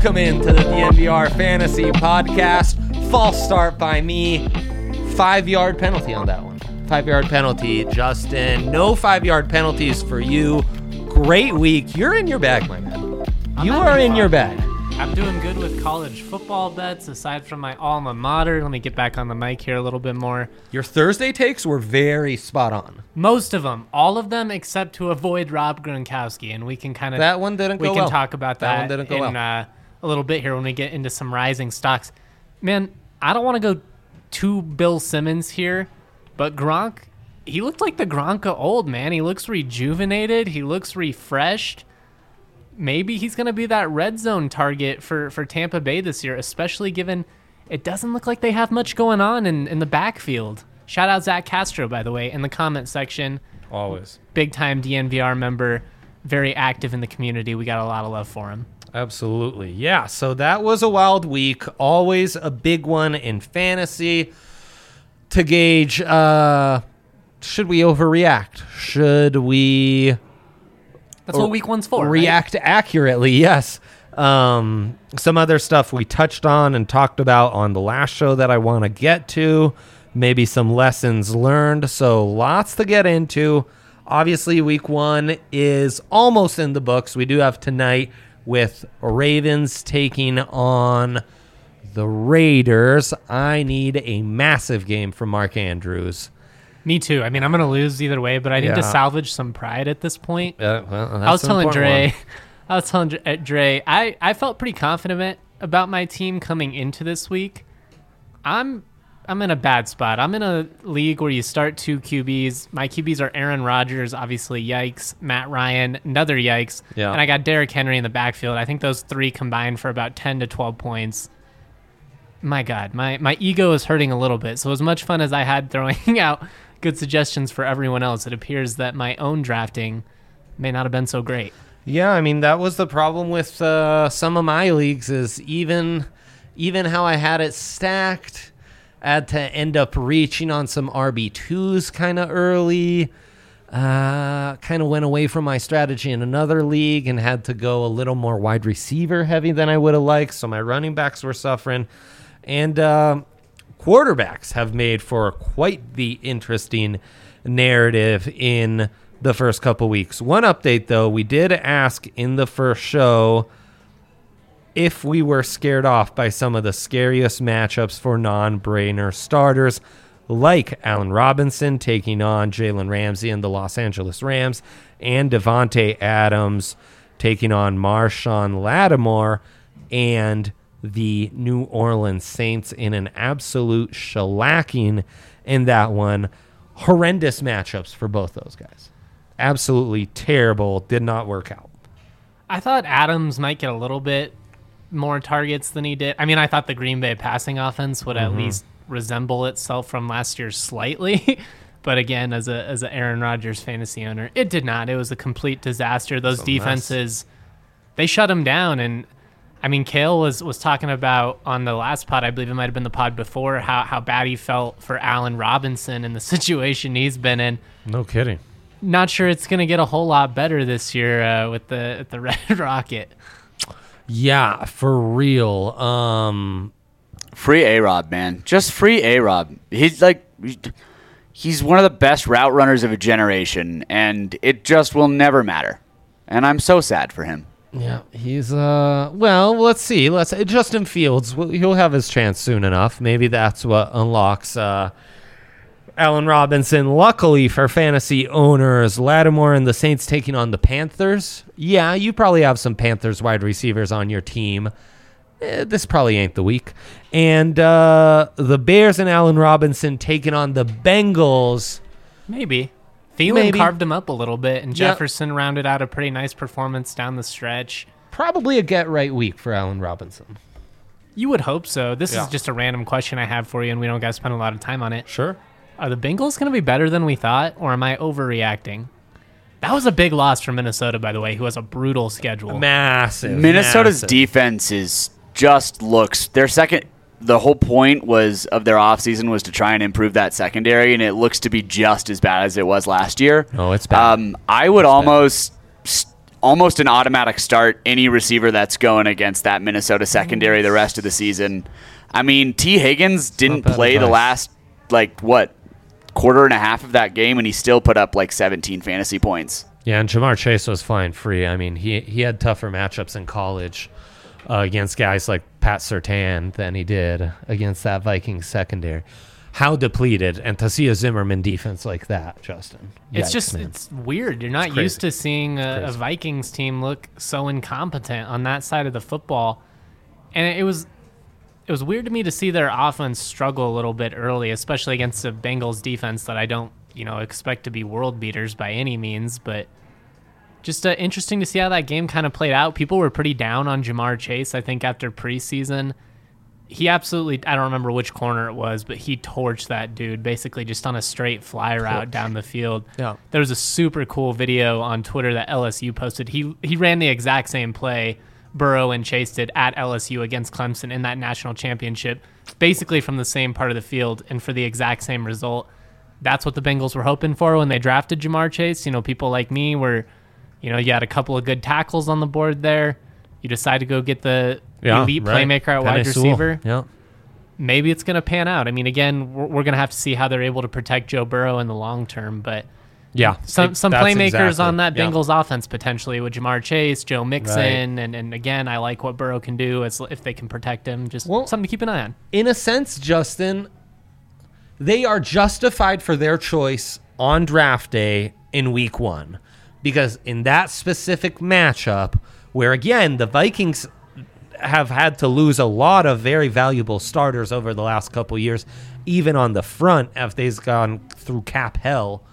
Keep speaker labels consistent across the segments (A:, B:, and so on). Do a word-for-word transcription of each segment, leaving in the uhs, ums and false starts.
A: Welcome into the D N V R Fantasy Podcast. False start by me. Five-yard penalty on that one. Five-yard penalty, Justin. No five-yard penalties for you. Great week. You're in your bag, my man.
B: I'm
A: You are in your bag.
B: I'm doing good with college football bets, aside from my alma mater. Let me get back on the mic here a little bit more.
A: Your Thursday takes were very spot on.
B: Most of them. All of them except to avoid Rob Gronkowski, and we can kind of...
A: That one didn't
B: we
A: go
B: can
A: well.
B: talk about
A: That
B: that,
A: one didn't go
B: in
A: well.
B: uh, a little bit here when we get into some rising stocks. Man, I don't want to go too Bill Simmons here, but Gronk, he looked like the Gronk of old, man. He looks rejuvenated. He looks refreshed. Maybe he's going to be that red zone target for, for Tampa Bay this year, especially given it doesn't look like they have much going on in, in the backfield. Shout out Zach Castro, by the way, in the comment section.
A: Always.
B: Big-time D N V R member, very active in the community. We got a lot of love for him.
A: Absolutely. Yeah, so that was a wild week. Always a big one in fantasy to gauge, uh, should we overreact? Should we...
B: That's what week one's for,
A: React
B: right?
A: accurately, yes. Um, some other stuff we touched on and talked about on the last show that I want to get to. Maybe some lessons learned. So lots to get into. Obviously, week one is almost in the books. We do have tonight with Ravens taking on the Raiders. I need a massive game from Mark Andrews.
B: Me too. I mean, I'm going to lose either way, but I need
A: Yeah.
B: to salvage some pride at this point.
A: Uh, well, that's
B: I was
A: an
B: telling
A: important
B: Dre,
A: one.
B: I was telling Dre, Dre I, I felt pretty confident about my team coming into this week. I'm I'm in a bad spot. I'm in a league where you start two Q Bs. My Q Bs are Aaron Rodgers, obviously, yikes. Matt Ryan, another yikes.
A: Yeah.
B: And I got Derrick Henry in the backfield. I think those three combined for about ten to twelve points. My God, my, my ego is hurting a little bit. So as much fun as I had throwing out good suggestions for everyone else, it appears that my own drafting may not have been so great.
A: Yeah, I mean, that was the problem with uh, some of my leagues is even even how I had it stacked, I had to end up reaching on some R B twos kind of early. Uh, kind of went away from my strategy in another league and had to go a little more wide receiver heavy than I would have liked, so my running backs were suffering. And uh, quarterbacks have made for quite the interesting narrative in the first couple weeks. One update, though, we did ask in the first show if we were scared off by some of the scariest matchups for non-brainer starters, like Allen Robinson taking on Jalen Ramsey and the Los Angeles Rams, and Devontae Adams taking on Marshawn Lattimore and the New Orleans Saints in an absolute shellacking in that one. Horrendous matchups for both those guys. Absolutely terrible. Did not work out.
B: I thought Adams might get a little bit more targets than he did. I mean, I thought the Green Bay passing offense would
A: Mm-hmm.
B: at least resemble itself from last year slightly. But again, as a as an Aaron Rodgers fantasy owner, it did not. It was a complete disaster. Those
A: It's a
B: defenses, they shut him down. And I mean, Kale was, was talking about on the last pod, I believe it might have been the pod before, how, how bad he felt for Allen Robinson and the situation he's been in.
A: No kidding.
B: Not sure it's going to get a whole lot better this year uh, with the the Red Rocket.
A: Yeah, for real. Um,
C: Free A-Rob, man. Just free A-Rob. He's like, he's one of the best route runners of a generation, and it just will never matter. And I'm so sad for him.
A: yeah, he's, uh, well, let's see. Let's Justin Fields, well, he'll have his chance soon enough. Maybe that's what unlocks uh, Allen Robinson. Luckily for fantasy owners, Lattimore and the Saints taking on the Panthers. Yeah, you probably have some Panthers wide receivers on your team. Eh, this probably ain't the week. And uh, the Bears and Allen Robinson taking on the Bengals.
B: Maybe. Thielen
A: Maybe.
B: carved him up a little bit, and
A: Yeah.
B: Jefferson rounded out a pretty nice performance down the stretch.
A: Probably a get-right week for Allen Robinson.
B: You would hope so. This
A: Yeah.
B: is just a random question I have for you, and we don't got to spend a lot of time on it.
A: Sure.
B: Are the Bengals going to be better than we thought, or am I overreacting? That was a big loss for Minnesota, by the way, who has a brutal schedule.
A: Massive.
C: Minnesota's
A: massive.
C: defense is just looks their second. The whole point was of their offseason was to try and improve that secondary, and it looks to be just as bad as it was last year.
A: Oh, it's bad.
C: Um, I would almost, st- almost an automatic start any receiver that's going against that Minnesota secondary the rest of the season. I mean, T. Higgins didn't play the last, like, what, quarter and a half of that game, and he still put up, like, seventeen fantasy points.
A: Yeah, and Jamar Chase was flying free. I mean, he he had tougher matchups in college uh, against guys like Pat Surtain than he did against that Vikings secondary. How depleted, and to see a Zimmerman defense like that, Justin.
B: It's
A: Yikes,
B: just,
A: man.
B: it's weird. You're not
A: It's
B: used
A: crazy.
B: to seeing a, a
A: crazy.
B: Vikings team look so incompetent on that side of the football. And it was it was weird to me to see their offense struggle a little bit early, especially against a Bengals defense that I don't, you know, expect to be world beaters by any means, but just uh, interesting to see how that game kind of played out. People were pretty down on Jamar Chase, I think, after preseason. He absolutely, I don't remember which corner it was, but he torched that dude basically just on a straight fly route down the field.
A: Yeah.
B: There was a super cool video on Twitter that L S U posted. He he ran the exact same play Burrow and Chase did at L S U against Clemson in that national championship, basically from the same part of the field and for the exact same result. That's what the Bengals were hoping for when they drafted Jamar Chase. You know, people like me were, you know, you had a couple of good tackles on the board there. You decide to go get the
A: Yeah,
B: elite
A: right.
B: playmaker at
A: Penei
B: wide
A: Sewell.
B: receiver.
A: Yeah.
B: Maybe it's going to pan out. I mean, again, we're, we're going to have to see how they're able to protect Joe Burrow in the long term, but
A: Yeah.
B: some some
A: That's
B: playmakers
A: exactly-
B: on that
A: yeah.
B: Bengals offense potentially with Jamar Chase, Joe Mixon, and, and again, I like what Burrow can do as if they can protect him. Just
A: Well-
B: something to keep an eye on.
A: In a sense, Justin, they are justified for their choice on draft day in week one. Because in that specific matchup, where again, the Vikings have had to lose a lot of very valuable starters over the last couple years, even on the front, as they've gone through cap hell,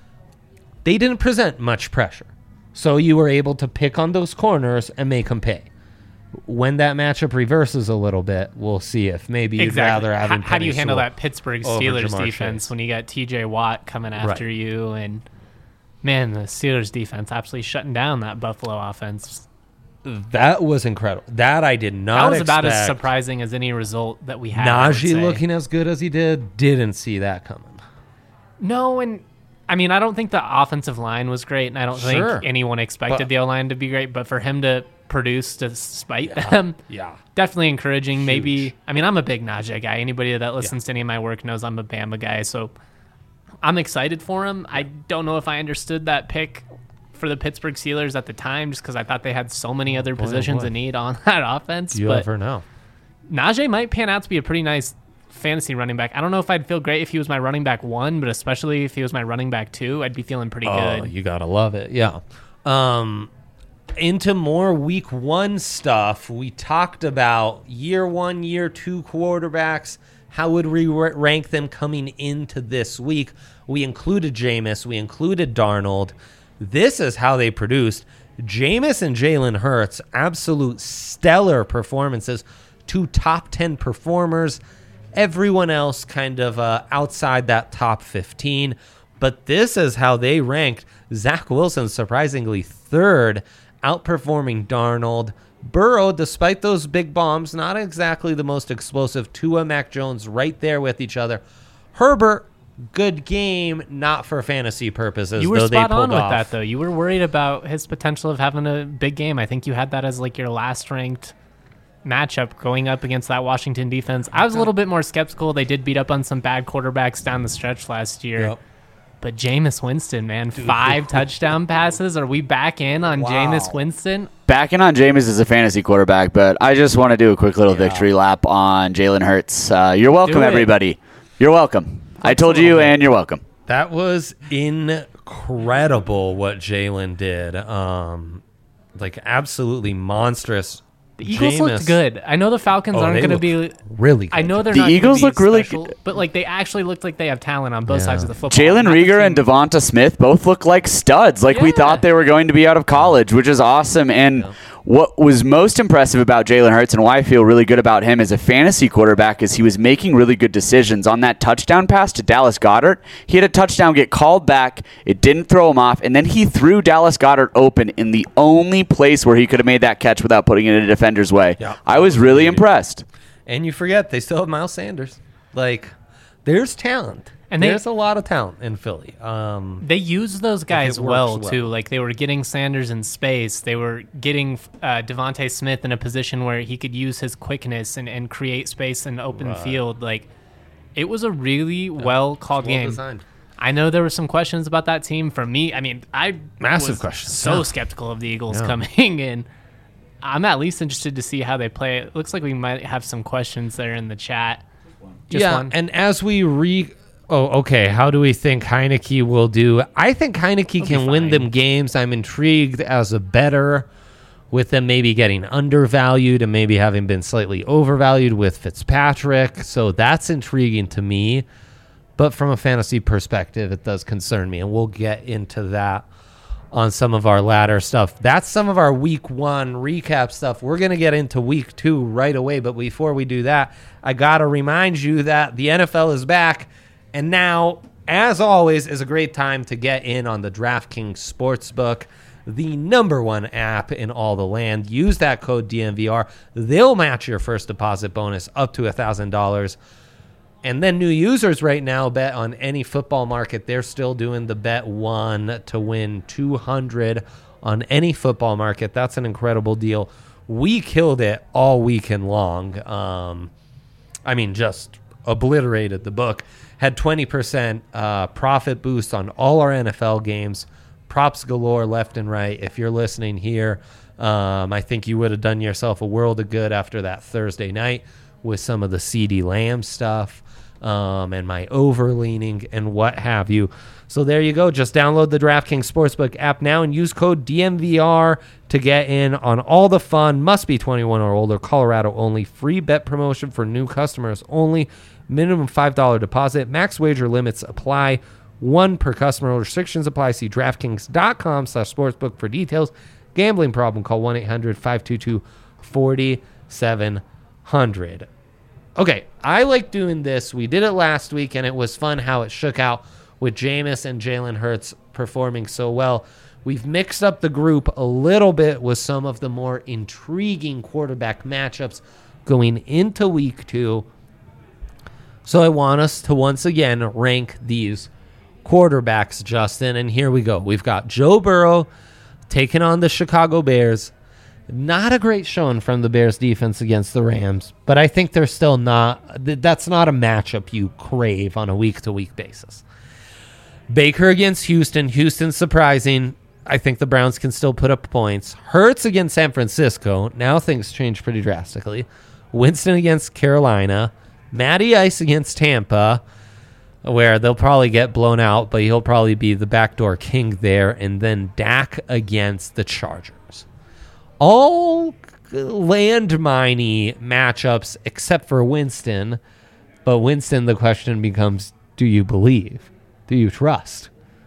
A: they didn't present much pressure. So you were able to pick on those corners and make them pay. When that matchup reverses a little bit, we'll see if maybe you'd
B: Exactly.
A: rather have
B: How,
A: him
B: how do you
A: Penei
B: handle
A: Sewell
B: that Pittsburgh
A: over
B: Steelers
A: Jamar
B: defense
A: Chase.
B: when you got T J Watt coming after
A: Right.
B: you? And man, the Steelers defense absolutely shutting down that Buffalo offense.
A: That was incredible. That I did not
B: That was
A: expect.
B: about as surprising as any result that we had. I would
A: Najee
B: say.
A: looking as good as he did, didn't see that coming.
B: No, and I mean, I don't think the offensive line was great, and I don't
A: Sure.
B: think anyone expected
A: But-
B: the O-line to be great, but for him to produce despite them,
A: Yeah.
B: definitely encouraging. Maybe, I mean, I'm a big Najee guy. Anybody that listens to any of my work knows I'm a Bama guy, so I'm excited for him. I don't know if I understood that pick for the Pittsburgh Steelers at the time, just because I thought they had so many other
A: boy, oh
B: positions
A: boy.
B: in need on that offense.
A: You
B: but
A: never know.
B: Najee might pan out to be a pretty nice fantasy running back. I don't know if I'd feel great if he was my running back one, but especially if he was my running back two, I'd be feeling pretty
A: Oh,
B: good.
A: you gotta love it. Yeah. Um, into more week one stuff, we talked about year one, year two quarterbacks. How would we ra- rank them coming into this week? We included Jameis. We included Darnold. This is how they produced. Jameis and Jalen Hurts, absolute stellar performances. Two top ten performers. Everyone else kind of uh, outside that top fifteen. But this is how they ranked. Zach Wilson, surprisingly third, outperforming Darnold. Burrow, despite those big bombs, not exactly the most explosive. Tua, Mac Jones right there with each other. Herbert, good game, not for fantasy purposes.
B: You were
A: though
B: spot
A: they
B: on
A: pulled
B: with
A: off.
B: that, though. You were worried about his potential of having a big game. I think you had that as like your last ranked matchup going up against that Washington defense. I was a little bit more skeptical. They did beat up on some bad quarterbacks down the stretch last year.
A: Yep.
B: But Jameis Winston, man, five touchdown passes. Are we back in on Jameis Winston?
C: Backing on Jameis as a fantasy quarterback, but I just want to do a quick little victory lap on Jalen Hurts. Uh, you're welcome,
A: Do it.
C: everybody. You're welcome. I told you, and you're welcome.
A: That was incredible what Jalen did. Um, like absolutely monstrous.
B: The Eagles looked
A: Jameis-
B: good. I know the Falcons
A: Oh,
B: aren't
A: they
B: going to
A: looked
B: be.
A: really good.
B: I know they're
C: The
B: not gonna
C: Eagles
B: be
C: look really
B: special,
C: good.
B: but like they actually look like they have talent on both
A: Yeah.
B: sides of the football.
C: Jalen
B: Not the
C: Rieger and
B: team-
C: Devonta Smith both look like studs, like we
B: Yeah.
C: thought they were going to be out of college, which is awesome. And what was most impressive about Jalen Hurts and why I feel really good about him as a fantasy quarterback is he was making really good decisions. On that touchdown pass to Dallas Goedert, he had a touchdown get called back. It didn't throw him off, and then he threw Dallas Goedert open in the only place where he could have made that catch without putting it in a defender's way.
A: Yeah.
C: I was really impressed.
A: And you forget they still have Miles Sanders. Like, there's talent.
B: And they,
A: there's a lot of talent in Philly. Um,
B: they use those guys
A: works
B: well,
A: well.
B: too. Like, they were getting Sanders in space. They were getting uh, Devontae Smith in a position where he could use his quickness and, and create space in open
A: Right.
B: field. Like, it was a really well-called
A: well
B: game.
A: designed.
B: I know there were some questions about that team. For me, I mean, I
A: Massive
B: was
A: questions.
B: so
A: Yeah.
B: skeptical of the Eagles
A: Yeah.
B: coming in. I'm at least interested to see how they play. It looks like we might have some questions there in the chat. Just
A: yeah,
B: one.
A: and as we re... Oh, okay. How do we think Heineke will do? I think Heineke
B: He'll be
A: can win
B: fine.
A: them games. I'm intrigued as a bettor with them maybe getting undervalued and maybe having been slightly overvalued with Fitzpatrick. So that's intriguing to me. But from a fantasy perspective, it does concern me. And we'll get into that on some of our latter stuff. That's some of our week one recap stuff. We're going to get into week two right away. But before we do that, I got to remind you that the N F L is back. And now, as always, is a great time to get in on the DraftKings Sportsbook, the number one app in all the land. Use that code D N V R. They'll match your first deposit bonus up to one thousand dollars. And then new users right now bet on any football market. They're still doing the bet one to win two hundred on any football market. That's an incredible deal. We killed it all weekend long. Um, I mean, just obliterated the book. Had twenty percent uh, profit boost on all our N F L games. Props galore left and right. If you're listening here, um, I think you would have done yourself a world of good after that Thursday night with some of the CeeDee Lamb stuff um, and my overleaning and what have you. So there you go. Just download the DraftKings Sportsbook app now and use code D M V R to get in on all the fun. Must be twenty-one or older. Colorado only. Free bet promotion for new customers only. Minimum five dollars deposit. Max wager limits apply. One per customer. Restrictions apply. See DraftKings.com slash sportsbook for details. Gambling problem. Call one eight hundred five two two four seven zero zero. Okay, I like doing this. We did it last week, and it was fun how it shook out with Jameis and Jalen Hurts performing so well. We've mixed up the group a little bit with some of the more intriguing quarterback matchups going into week two. So I want us to once again rank these quarterbacks, Justin. And here we go. We've got Joe Burrow taking on the Chicago Bears. Not a great showing from the Bears defense against the Rams, but I think they're still not, that's not a matchup you crave on a week-to-week basis. Baker against Houston. Houston's surprising. I think the Browns can still put up points. Hurts against San Francisco. Now things change pretty drastically. Winston against Carolina. Matty Ice against Tampa, where they'll probably get blown out, but he'll probably be the backdoor king there. And then Dak against the Chargers. All landmine-y matchups except for Winston. But Winston, the question becomes, do you believe? Do you trust?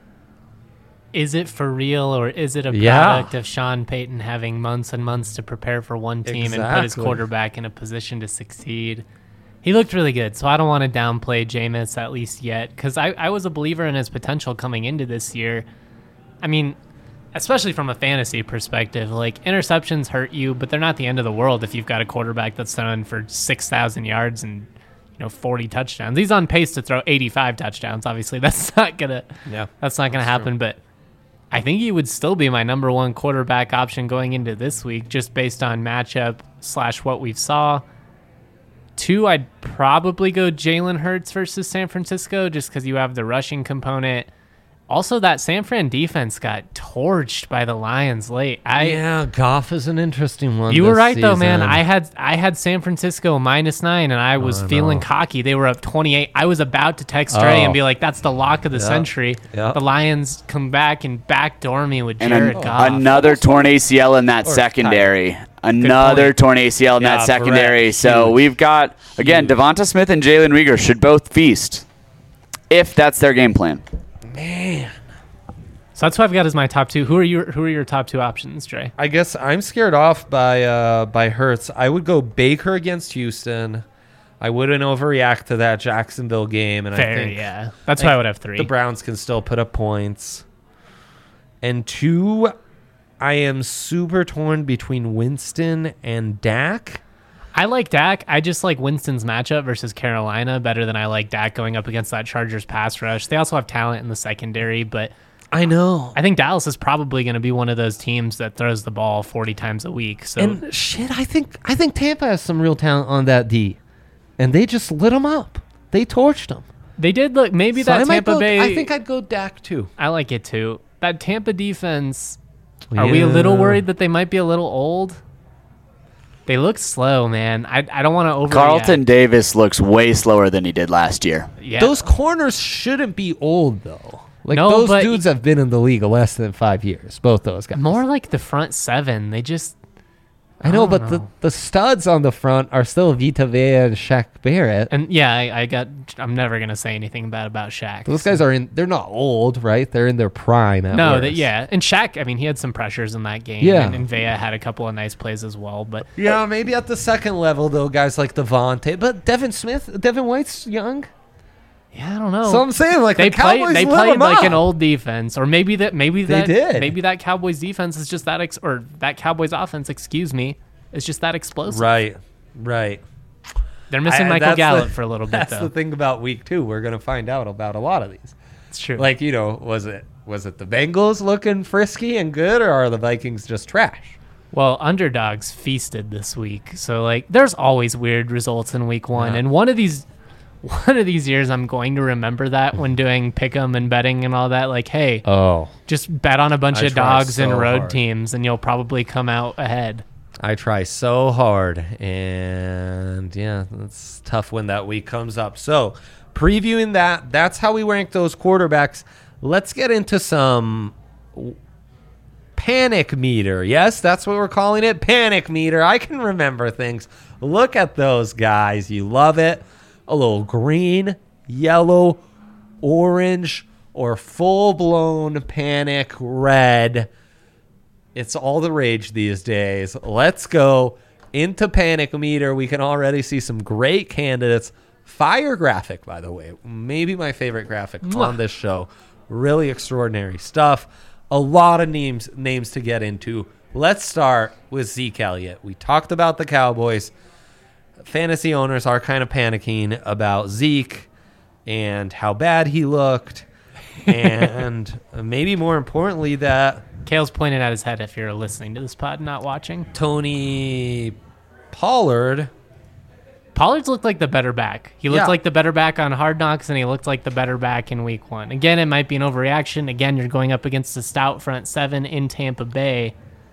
B: Is it for real, or is it a
A: Yeah.
B: product of Sean Payton having months and months to prepare for one team and put his
A: Exactly.
B: quarterback in a position to succeed? He looked really good, so I don't want to downplay Jameis at least yet, because I, I was a believer in his potential coming into this year. I mean, especially from a fantasy perspective, like, interceptions hurt you, but they're not the end of the world if you've got a quarterback that's thrown for six thousand yards and, you know, forty touchdowns. He's on pace to throw eighty-five touchdowns. Obviously, that's not gonna
A: Yeah,
B: that's not gonna happen, but I think he would still be my number one quarterback option going into this week, just based on matchup slash what we've saw. Two, I'd probably go Jalen Hurts versus San Francisco, just because you have the rushing component. Also, that San Fran defense got torched by the Lions late. I
A: yeah, Goff is an interesting one.
B: You were
A: this
B: right though, man.
A: season.
B: I had I had San Francisco minus nine, and I was
A: I
B: feeling
A: know.
B: cocky. They were up twenty-eight. I was about to text Trey
A: Oh.
B: and be like, "That's the lock of the
A: Yeah.
B: century."
A: Yeah.
B: The Lions come back and backdoor me with
C: And
B: Jared
C: an-
B: Goff.
C: another torn A C L in that
A: Or
C: secondary. Another
B: point.
C: torn A C L in
A: Yeah,
C: that secondary.
A: Brett,
C: So
A: huge.
C: we've got, again,
A: Huge.
C: Devonta Smith and Jalen Reagor should both feast if that's their game plan.
A: Man,
B: So that's what I've got as my top two. Who are your Who are your top two options, Trey?
A: I guess I'm scared off by uh, by Hurts. I would go Baker against Houston. I wouldn't overreact to that Jacksonville game, and I
B: Fair,
A: think
B: yeah. That's
A: I
B: why I
A: think
B: would have three.
A: the Browns can still put up points. And two, I am super torn between Winston and Dak.
B: I like Dak. I just like Winston's matchup versus Carolina better than I like Dak going up against that Chargers pass rush. They also have talent in the secondary, but
A: I know.
B: I think Dallas is probably going to be one of those teams that throws the ball forty times a week. So
A: And shit, I think I think Tampa has some real talent on that D, and they just lit them up. They torched them.
B: they did look maybe
A: So I
B: that
A: might
B: Tampa
A: go-
B: Bay.
A: I think I'd go Dak too.
B: I like it too. That Tampa defense. Are we a little
A: Yeah.
B: worried that they might be a little old? They look slow, man. I I don't want to overreact.
C: Carlton Davis looks way slower than he did last year.
B: Yeah.
A: Those corners shouldn't be old though. Like
B: No,
A: those
B: but-
A: dudes have been in the league less than five years. Both those guys.
B: more like the front seven. They just
A: I know,
B: I don't
A: but the,
B: know.
A: the studs on the front are still Vita Vea and Shaq Barrett.
B: and yeah, I, I got. I'm never gonna say anything bad about Shaq.
A: Those guys are in. They're not old, right? They're in their prime. At
B: No,
A: worst.
B: that yeah, and Shaq. I mean, he had some pressures in that game.
A: Yeah.
B: and, and Vea had a couple of nice plays as well. But
A: Yeah, maybe at the second level though, guys like Devontae, but Devin Smith, Devin White's young.
B: yeah, I don't know.
A: So I'm saying like
B: they
A: the Cowboys
B: played. They
A: lit
B: played
A: 'em
B: like
A: up.
B: an old defense, or maybe that. Maybe
A: They
B: that.
A: did.
B: Maybe that Cowboys defense is just that. Ex, or that Cowboys offense. Excuse me. Is just that explosive.
A: Right, right.
B: They're missing
A: I-
B: Michael
A: that's
B: Gallup
A: the-
B: for a little bit
A: That's
B: though.
A: the thing about week two. We're gonna find out about a lot of these.
B: It's true.
A: Like you know, was it was it the Bengals looking frisky and good, or are the Vikings just trash?
B: Well, underdogs feasted this week, so like there's always weird results in week one,
A: Yeah.
B: and one of these, one of these years, I'm going to remember that when doing pick'em and betting and all that. Like, hey,
A: Oh,
B: just bet on a bunch
A: I
B: of
A: try
B: dogs and
A: so
B: road
A: hard.
B: teams, and you'll probably come out ahead.
A: I try so hard, and yeah, it's tough when that week comes up. So, previewing that, that's how we rank those quarterbacks. Let's get into some w- panic meter. Yes, that's what we're calling it, panic meter. I can remember things. Look at those guys. You love it. A little green, yellow, orange, or full-blown panic red. It's all the rage these days. Let's go into panic meter. We can already see some great candidates. Fire graphic, by the way. Maybe my favorite graphic on this show. Really extraordinary stuff. A lot of names names to get into. Let's start with Zeke Elliott. We talked about the Cowboys. Fantasy owners are kind of panicking about Zeke and how bad he looked. And maybe more importantly that
B: Kale's pointing at his head if you're listening to this pod, not watching.
A: Tony Pollard.
B: Pollard's looked like the better back. He looked
A: Yeah.
B: like the better back on Hard Knocks, and he looked like the better back in week one. Again, it might be an overreaction. Again, you're going up against a stout front seven in Tampa Bay.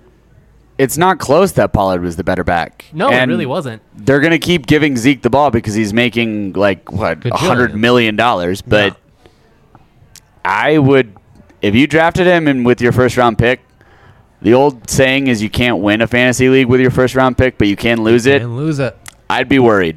C: It's not close that Pollard was the better back.
B: No,
C: And
B: it really wasn't.
C: They're going to keep giving Zeke the ball because he's making like what
A: Gajillion.
C: a hundred million dollars. But I would, if you drafted him and with your first round pick, the old saying is you can't win a fantasy league with your first round pick, but you can lose it.
A: And lose it.
C: I'd be worried.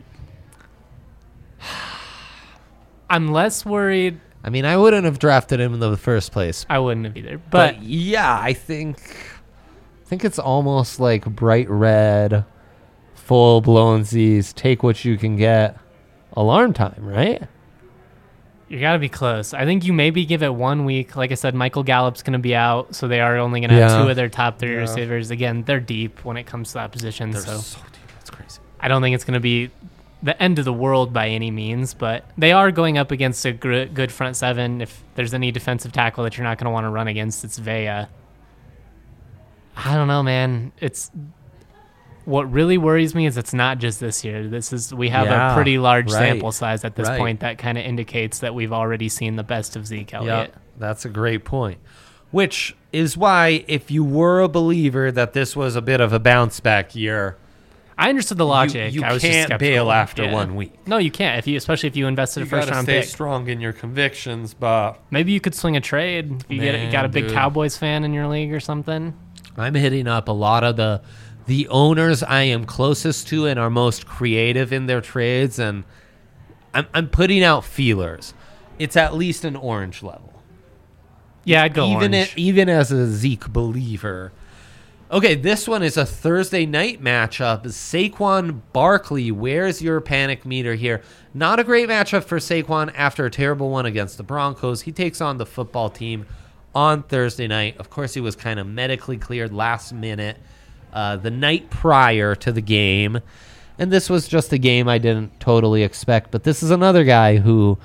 B: I'm less worried.
A: I mean, I wouldn't have drafted him in the first place.
B: I wouldn't have either.
A: But,
B: But,
A: yeah, I think I think it's almost like bright red, full blown Z's, take what you can get. Alarm time, right?
B: you got to be close. I think you maybe give it one week. Like I said, Michael Gallup's going to be out, so they are only going to have
A: Yeah.
B: two of their top three
A: Yeah.
B: receivers. Again, they're deep when it comes to that position.
A: They're
B: so
A: so deep. It's crazy.
B: I don't think it's going to be the end of the world by any means, but they are going up against a gr- good front seven. If there's any defensive tackle that you're not going to want to run against, it's Vea. I don't know, man. It's what really worries me is it's not just this year. This is we have
A: Yeah,
B: a pretty large
A: right,
B: sample size at this
A: right.
B: point that kind of indicates that we've already seen the best of Zeke Elliott.
A: Yep, that's a great point. Which is why, if you were a believer that this was a bit of a bounce back year,
B: I understood the logic.
A: you
B: I was just
A: can't
B: skeptical.
A: bail after
B: Yeah.
A: one week.
B: No, you can't. If you, especially if you invested a
A: you
B: first
A: gotta
B: round
A: stay
B: pick.
A: strong in your convictions. But
B: Maybe you could swing a trade if you get
A: Man,
B: got a big
A: dude.
B: Cowboys fan in your league or something.
A: I'm hitting up a lot of the the owners I am closest to and are most creative in their trades, and I'm I'm putting out feelers. It's at least an orange level.
B: Yeah, I'd go
A: even
B: orange.
A: it, even as a Zeke believer. Okay, this one is a Thursday night matchup. Saquon Barkley, where's your panic meter here? Not a great matchup for Saquon after a terrible one against the Broncos. He takes on the football team on Thursday night. Of course, he was kind of medically cleared last minute, uh, the night prior to the game. And this was just a game I didn't totally expect. But this is another guy who,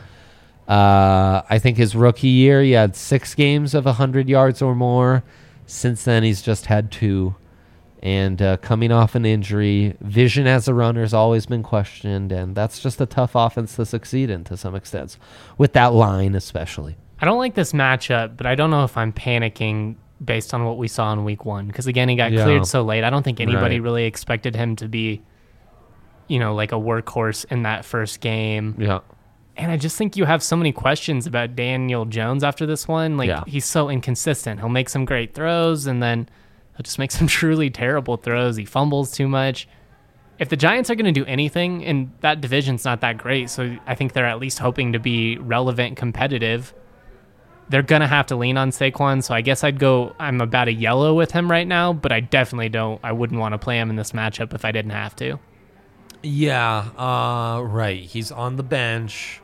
A: uh, I think his rookie year, he had six games of one hundred yards or more. Since then, he's just had two. And uh, coming off an injury, vision as a runner has always been questioned. And that's just a tough offense to succeed in to some extent, with that line especially.
B: I don't like this matchup, but I don't know if I'm panicking based on what we saw in week one. Because, again, he got
A: Yeah.
B: cleared so late. I don't think anybody
A: Right.
B: really expected him to be, you know, like a workhorse in that first game.
A: Yeah.
B: And I just think you have so many questions about Daniel Jones after this one. Like,
A: Yeah.
B: he's so inconsistent. He'll make some great throws, and then he'll just make some truly terrible throws. He fumbles too much. If the Giants are going to do anything, and that division's not that great, so I think they're at least hoping to be relevant, competitive, they're going to have to lean on Saquon. So I guess I'd go, I'm about a yellow with him right now, but I definitely don't, I wouldn't want to play him in this matchup if I didn't have to.
A: Yeah, uh, right. He's on the bench.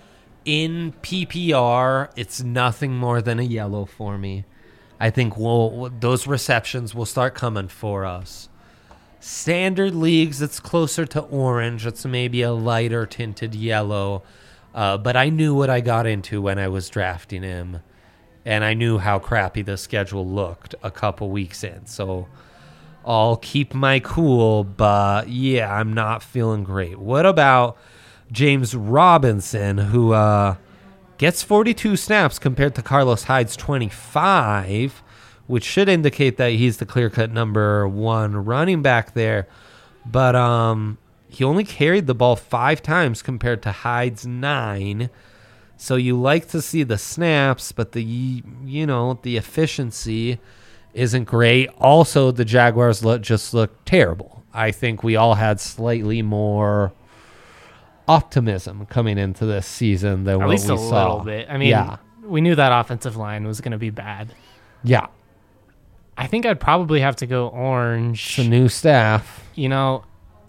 A: In P P R, it's nothing more than a yellow for me. I think we'll, those receptions will start coming for us. Standard leagues, it's closer to orange. It's maybe a lighter tinted yellow. Uh, but I knew what I got into when I was drafting him. And I knew how crappy the schedule looked a couple weeks in. So I'll keep my cool, but yeah, I'm not feeling great. What about James Robinson, who uh, gets forty-two snaps compared to Carlos Hyde's twenty-five, which should indicate that he's the clear-cut number one running back there. But um, he only carried the ball five times compared to Hyde's nine. So you like to see the snaps, but the, you know, the efficiency isn't great. Also, the Jaguars look, just look terrible. I think we all had slightly more optimism coming into this season than
B: At
A: what
B: least
A: we
B: a
A: saw.
B: little bit. I mean,
A: yeah,
B: we knew that offensive line was going to be bad.
A: yeah.
B: I think I'd probably have to go orange.
A: It's a new staff.
B: You know,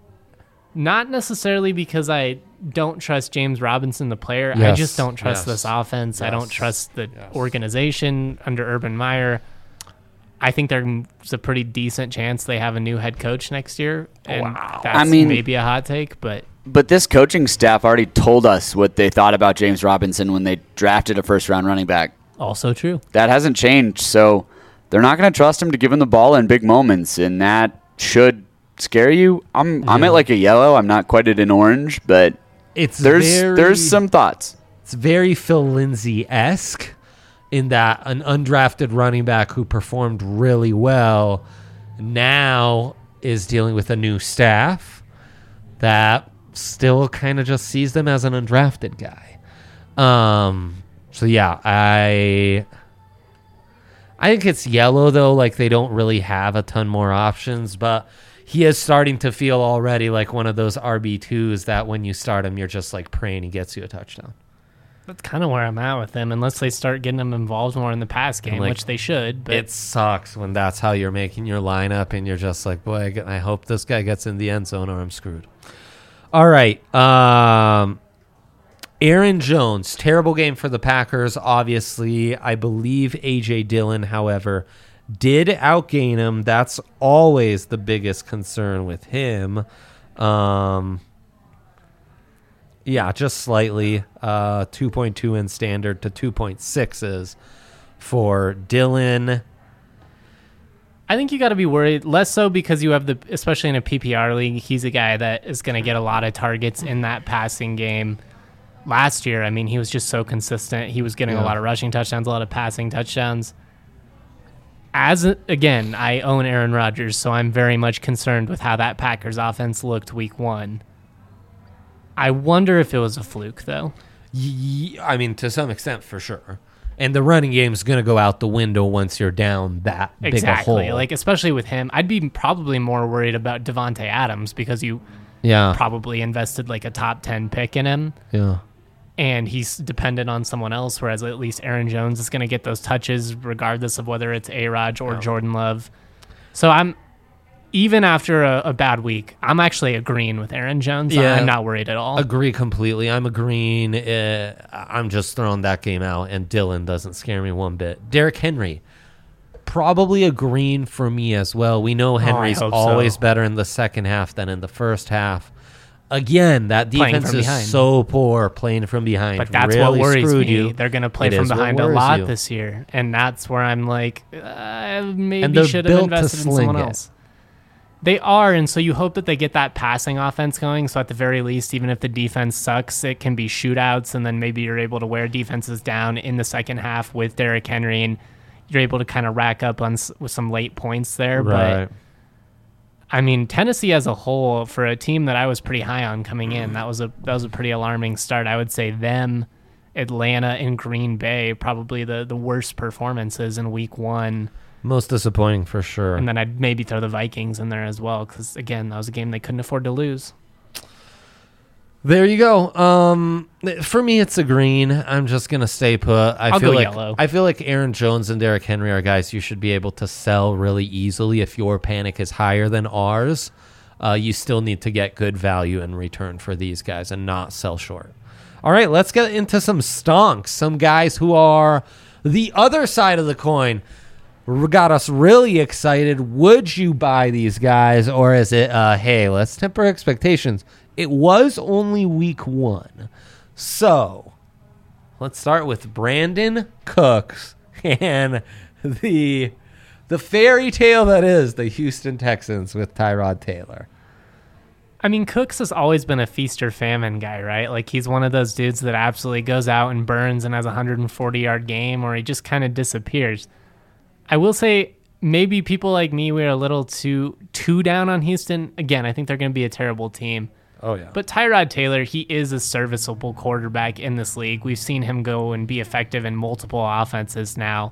B: not necessarily because I don't trust James Robinson, the player. I
A: Yes,
B: just don't trust
A: yes,
B: this offense. I don't
A: yes,
B: trust the
A: yes.
B: organization under Urban Meyer. I think there's a pretty decent chance they have a new head coach next year. And
A: Wow.
B: that's
C: I mean-
B: maybe a hot take, but
C: But this coaching staff already told us what they thought about James Robinson when they drafted a first-round running back.
B: also true.
C: That hasn't changed, so they're not going to trust him to give him the ball in big moments, and that should scare you. I'm I'm
A: Yeah.
C: at like a yellow. I'm not quite at an orange, but
A: It's
C: there's
A: very,
C: there's some thoughts.
A: It's very Phil Lindsay-esque in that an undrafted running back who performed really well now is dealing with a new staff that still kind of just sees them as an undrafted guy. Um, so yeah, I I think it's yellow though, like they don't really have a ton more options, but he is starting to feel already like one of those R B twos that when you start him, you're just like praying he gets you a touchdown.
B: That's kind of where I'm at with them, unless they start getting them involved more in the pass game,
A: Like,
B: which they should. But
A: It sucks when that's how you're making your lineup and you're just like, boy, I, get- I hope this guy gets in the end zone or I'm screwed. All right. Um, Aaron Jones, terrible game for the Packers, obviously. I believe A J Dillon, however, did outgain him. That's always the biggest concern with him. Um, yeah, just slightly. Uh, two point two in standard to two point six is for Dillon.
B: I think you got to be worried, less so because you have the, especially in a P P R league, he's a guy that is going to get a lot of targets in that passing game. Last year, I mean, he was just so consistent. He was getting
A: Yeah.
B: a lot of rushing touchdowns, a lot of passing touchdowns. As a, again, I own Aaron Rodgers, so I'm very much concerned with how that Packers offense looked week one. I wonder if it was a fluke, though.
A: Ye- I mean, to some extent, for sure. And the running game is going to go out the window once you're down that big a
B: Exactly.
A: hole.
B: Like, especially with him, I'd be probably more worried about Devontae Adams because you
A: yeah,
B: probably invested like a top ten pick in him.
A: yeah.
B: And he's dependent on someone else, whereas at least Aaron Jones is going to get those touches regardless of whether it's A-Rod or
A: Yeah.
B: Jordan Love. So I'm, even after a, a bad week, I'm actually agreeing with Aaron Jones.
A: Yeah.
B: I'm not worried at all.
A: Agree completely. I'm agreeing. Uh, I'm just throwing that game out, and Dylan doesn't scare me one bit. Derrick Henry, probably a green for me as well. We know Henry's
B: hope
A: always
B: so.
A: better in the second half than in the first half. Again, that
B: Playing
A: defense
B: from
A: is
B: behind.
A: so poor playing from behind.
B: But that's
A: really
B: what worries
A: screwed
B: me.
A: you.
B: They're going to play
A: It
B: from
A: is what
B: behind a
A: worries
B: lot
A: you.
B: this year, and that's where I'm like, uh, maybe
A: And they're
B: should have
A: built to
B: invested in
A: sling
B: someone
A: it.
B: else. They are, and so you hope that they get that passing offense going. So at the very least, even if the defense sucks, it can be shootouts, and then maybe you're able to wear defenses down in the second half with Derrick Henry, and you're able to kind of rack up on s- with some late points there.
A: Right.
B: But I mean, Tennessee as a whole, for a team that I was pretty high on coming in, that was a that was a pretty alarming start. I would say them, Atlanta, and Green Bay probably the, the worst performances in week one.
A: Most disappointing for sure.
B: And then I'd maybe throw the Vikings in there as well because, again, that was a game they couldn't afford to lose.
A: There you go. Um, for me, it's a green. I'm just gonna stay put. I
B: I'll
A: feel
B: go
A: like
B: yellow.
A: I feel like Aaron Jones and Derrick Henry are guys you should be able to sell really easily if your panic is higher than ours. Uh, you still need to get good value in return for these guys and not sell short. All right, let's get into some stonks. Some guys who are the other side of the coin. Got us really excited. Would you buy these guys, or is it, uh, hey, let's temper expectations? It was only week one. So let's start with Brandon Cooks and the the fairy tale that is the Houston Texans with Tyrod Taylor.
B: I mean, Cooks has always been a feast or famine guy, right? Like, he's one of those dudes that absolutely goes out and burns and has a one hundred forty-yard game, or he just kind of disappears. I will say maybe people like me were a little too too down on Houston. Again, I think they're going to be a terrible team.
A: Oh, yeah.
B: But Tyrod Taylor, he is a serviceable quarterback in this league. We've seen him go and be effective in multiple offenses now.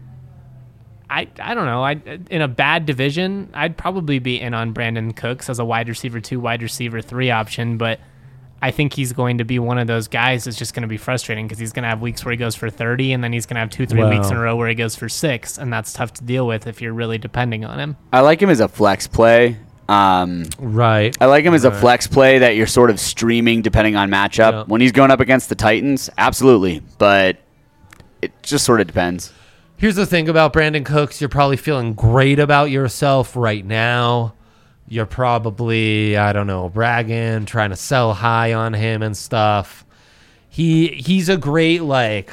B: I I don't know. I in a bad division, I'd probably be in on Brandon Cooks as a wide receiver two, wide receiver three option, but I think he's going to be one of those guys that's just going to be frustrating because he's going to have weeks where he goes for thirty, and then he's going to have two, three
A: Wow.
B: weeks in a row where he goes for six, and that's tough to deal with if you're really depending on him.
C: I like him as a flex play. Um,
A: Right.
C: I like him as a
A: Right.
C: flex play that you're sort of streaming depending on matchup.
A: Yeah.
C: When he's going up against the Titans, absolutely. But it just sort of depends.
A: Here's the thing about Brandon Cooks. You're probably feeling great about yourself right now. You're probably, I don't know, bragging, trying to sell high on him and stuff. He he's a great, like,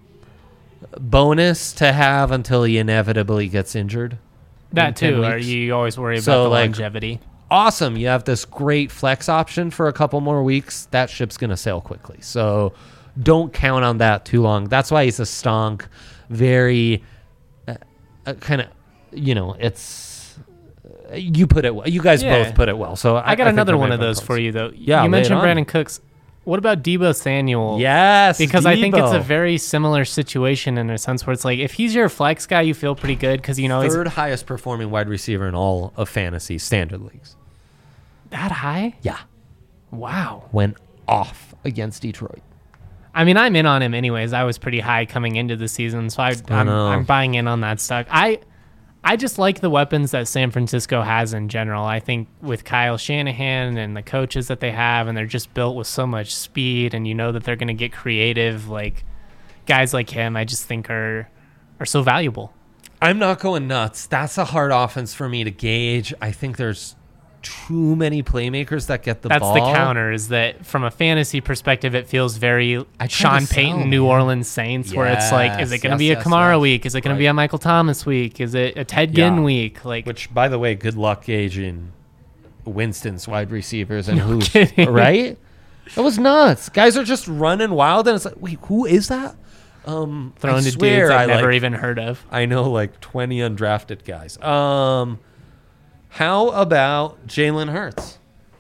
A: bonus to have until he inevitably gets injured.
B: That
A: in ten
B: too, or
A: weeks.
B: you always worry about
A: So,
B: the
A: like,
B: longevity.
A: Awesome. You have this great flex option for a couple more weeks. That ship's going to sail quickly. So don't count on that too long. That's why he's a stonk. Very uh, uh, kind of, you know, it's, uh, you put it well. You guys
B: Yeah.
A: both put it well. So I,
B: I got
A: I think
B: another
A: they're
B: one
A: very
B: of
A: fun
B: those
A: calls.
B: for you, though.
A: Yeah, lay
B: you
A: it
B: mentioned
A: on.
B: Brandon Cooks. What about Debo Samuel?
A: Yes.
B: Because I think it's a
A: Debo.
B: very similar situation in a sense where it's like if he's your flex guy, you feel pretty good because you know he's
A: third highest performing wide receiver in all of fantasy standard leagues.
B: that high.
A: Yeah.
B: Wow.
A: Went off against Detroit.
B: I mean, I'm in on him anyways. I was pretty high coming into the season, so I,
A: I
B: I'm,
A: know.
B: I'm buying in on that stock. I I just like the weapons that San Francisco has in general. I think with Kyle Shanahan and the coaches that they have, and they're just built with so much speed, and you know that they're going to get creative. Like guys like him, I just think are are so valuable.
A: I'm not going nuts. That's a hard offense for me to gauge. I think there's too many playmakers that get the
B: That's
A: ball.
B: the counter, is that from a fantasy perspective, it feels very
A: I try
B: Sean
A: to sell,
B: Payton, New
A: man.
B: Orleans Saints, where it's like, is it
A: Yes,
B: going to be a
A: yes,
B: Kamara
A: yes.
B: week? Is it going to be
A: Right.
B: a Michael Thomas week? Is it a Ted
A: Yeah.
B: Ginn week? Like,
A: Which, by the way, good luck gauging Winston's wide receivers and
B: No
A: who's
B: kidding.
A: right. That was nuts. Guys are just running wild, and it's like, wait, who is that? Um,
B: thrown
A: I
B: to
A: swear
B: dudes I've
A: I
B: never
A: like,
B: even heard of.
A: I know like twenty undrafted guys. Um, how about Jalen Hurts?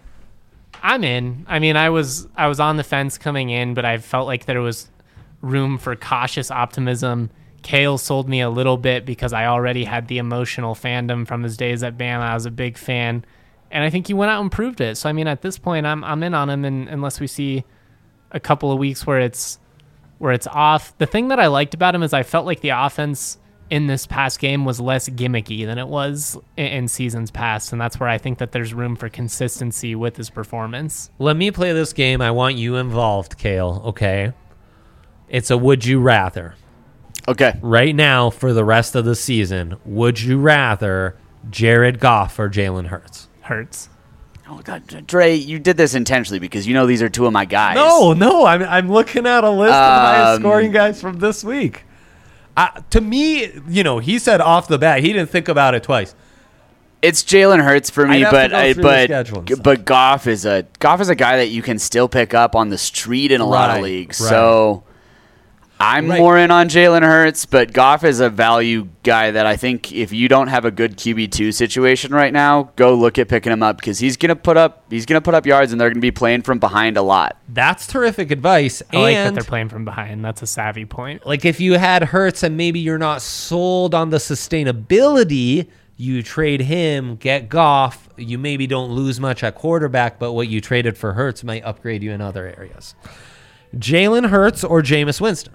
B: I'm in. I mean, I was I was on the fence coming in, but I felt like there was room for cautious optimism. Kale sold me a little bit because I already had the emotional fandom from his days at Bama. I was a big fan, and I think he went out and proved it. So I mean, at this point, I'm I'm in on him, and unless we see a couple of weeks where it's where it's off. The thing that I liked about him is I felt like the offense in this past game was less gimmicky than it was in, in seasons past, and that's where I think that there's room for consistency with his performance.
A: Let me play this game. I want you involved, Kale. Okay. It's a would you rather.
C: Okay.
A: Right now, for the rest of the season, would you rather Jared Goff or Jalen Hurts?
B: Hurts.
C: Oh, God. Dre, you did this intentionally because you know these are two of my guys.
A: No, no. I'm, I'm looking at a list of the highest
C: Um,
A: scoring guys from this week. Uh, to me, you know, he said off the bat, he didn't think about it twice.
C: It's Jalen Hurts for me,
A: I'd have to
C: but
A: go
C: I,
A: through the
C: but
A: schedule and stuff.
C: but Goff is a Goff is a guy that you can still pick up on the street in a lot of
A: Right,
C: leagues.
A: right.
C: So I'm
A: Right.
C: more in on Jalen Hurts, but Goff is a value guy that I think if you don't have a good Q B two situation right now, go look at picking him up because he's gonna put up he's gonna put up yards and they're gonna be playing from behind a lot.
A: That's terrific advice.
B: I like that
A: and
B: they're playing from behind. That's a savvy point.
A: like if you had Hurts and maybe you're not sold on the sustainability, you trade him, get Goff. You maybe don't lose much at quarterback, but what you traded for Hurts might upgrade you in other areas. Jalen Hurts or Jameis Winston?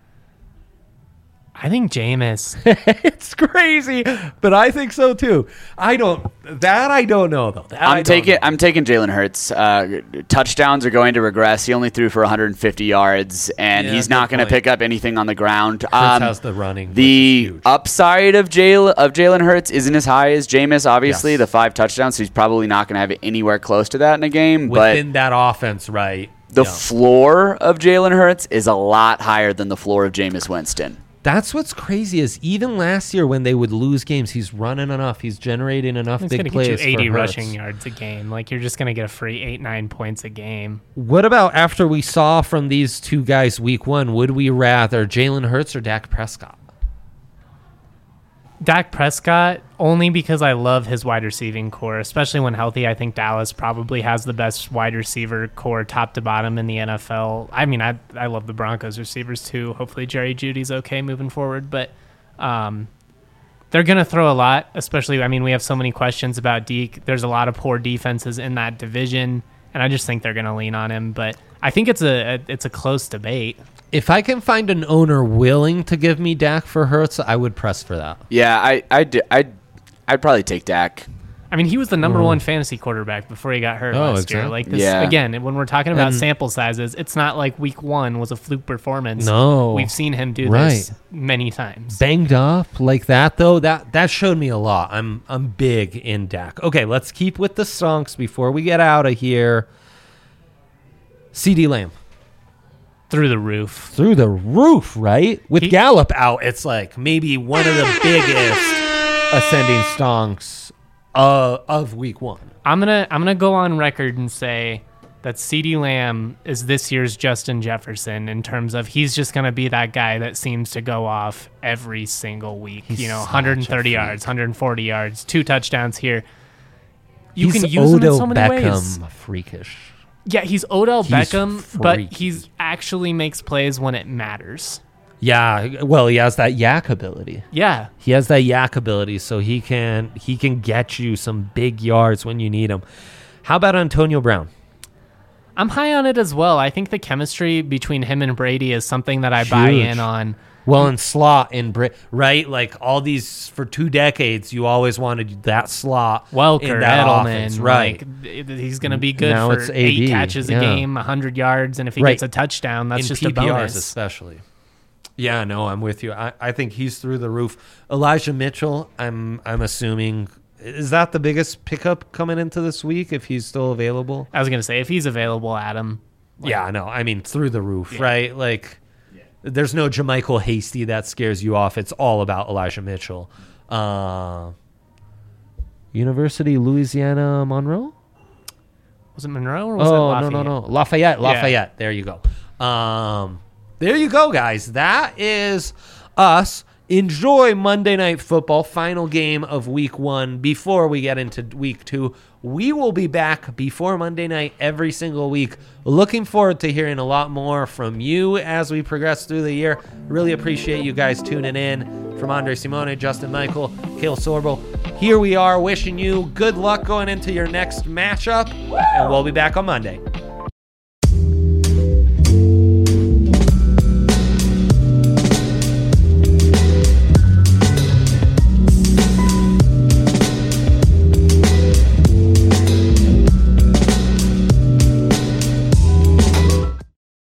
B: I think Jameis.
A: It's crazy, but I think so too. I don't. That I don't know though. That I
C: I'm
A: don't
C: taking
A: know.
C: I'm taking Jalen Hurts. Uh, touchdowns are going to regress. He only threw for one hundred fifty yards, and
A: Yeah,
C: he's
A: good
C: not going to
A: point.
C: pick up anything on the ground.
A: Hurts
C: Um,
A: has the running. which is
C: The
A: huge.
C: upside of Jalen of Jalen Hurts isn't as high as Jameis. Obviously,
A: Yes.
C: the five touchdowns, so he's probably not going to have it anywhere close to that in a game.
A: within that offense, right?
C: But the
A: Yeah.
C: floor of Jalen Hurts is a lot higher than the floor of Jameis Winston.
A: That's what's crazy is even last year when they would lose games, he's running enough. He's generating enough
B: It's
A: big
B: going to
A: plays
B: get you eighty
A: for Hurts.
B: rushing yards a game. Like, you're just going to get a free eight, nine points a game.
A: What about after we saw from these two guys week one? Would we rather Jalen Hurts or Dak Prescott?
B: Dak Prescott, only because I love his wide receiving core, especially when healthy. I think Dallas probably has the best wide receiver core top to bottom in the N F L. I mean, I I love the Broncos receivers too. Hopefully Jerry Jeudy's okay moving forward, but um, they're going to throw a lot, especially, I mean, we have so many questions about Deke. There's a lot of poor defenses in that division, and I just think they're going to lean on him, but I think it's a, a it's a close debate.
A: If I can find an owner willing to give me Dak for Hurts, I would press for that.
C: Yeah, I I I'd, I'd probably take Dak.
B: I mean, he was the number one fantasy quarterback before he got hurt
A: Oh,
B: last year.
A: exactly.
B: Like this
C: Yeah.
B: again, when we're talking about
A: And-
B: sample sizes, it's not like week one was a fluke performance.
A: No.
B: We've seen him do
A: Right.
B: this many times.
A: Banged up like that though, that that showed me a lot. I'm I'm big in Dak. Okay, let's keep with the stonks before we get out of here. CeeDee Lamb.
B: Through the roof.
A: Through the roof, right? With
B: He-
A: Gallup out, it's like maybe one of the biggest ascending stonks uh, of week one.
B: I'm gonna I'm gonna go on record and say that CeeDee Lamb is this year's Justin Jefferson in terms of he's just gonna be that guy that seems to go off every single week.
A: He's
B: you know,
A: such
B: one hundred thirty
A: a
B: yards, one hundred forty yards, two touchdowns here. You
A: He's
B: can use
A: Odell
B: him in so many
A: Beckham
B: ways.
A: freakish.
B: Yeah, he's Odell
A: He's
B: Beckham, but
A: freaky.
B: he's actually makes plays when it matters.
A: Yeah, well, he has that yak ability.
B: Yeah,
A: He has that yak ability, so he can he can get you some big yards when you need them. How about Antonio Brown?
B: I'm high on it as well. I think the chemistry between him and Brady is something that I buy
A: Huge.
B: in on.
A: Well, in slot in Brit, right? Like all these for two decades, you always wanted that slot
B: Welker,
A: in that
B: Edelman,
A: offense, right?
B: Like, th- he's going to be good
A: Now
B: for
A: it's A
B: eight
A: D,
B: catches
A: yeah.
B: a game, one hundred yards, and if he
A: Right.
B: gets a touchdown, that's
A: in
B: just
A: P
B: a
A: P Rs
B: bonus.
A: especially. Yeah, no, I'm with you. I, I think he's through the roof. Elijah Mitchell, I'm I'm assuming, is that the biggest pickup coming into this week if he's still available?
B: I was going to say, if he's available, Adam.
A: Yeah, no, I mean through the roof, right? Like, there's no Jermichael Hasty that scares you off. It's all about Elijah Mitchell. Uh, University Louisiana Monroe?
B: Was it Monroe or was it
A: Oh, no,
B: Lafayette?
A: no, no. Lafayette, Lafayette. There you go. Um, there you go, guys. That is us. Enjoy Monday Night Football, final game of week one before we get into week two. We will be back before Monday night every single week. Looking forward to hearing a lot more from you as we progress through the year. Really appreciate you guys tuning in. From Andre Simone, Justin Michael, Kale Sorbo, here we are wishing you good luck going into your next matchup, and we'll be back on Monday.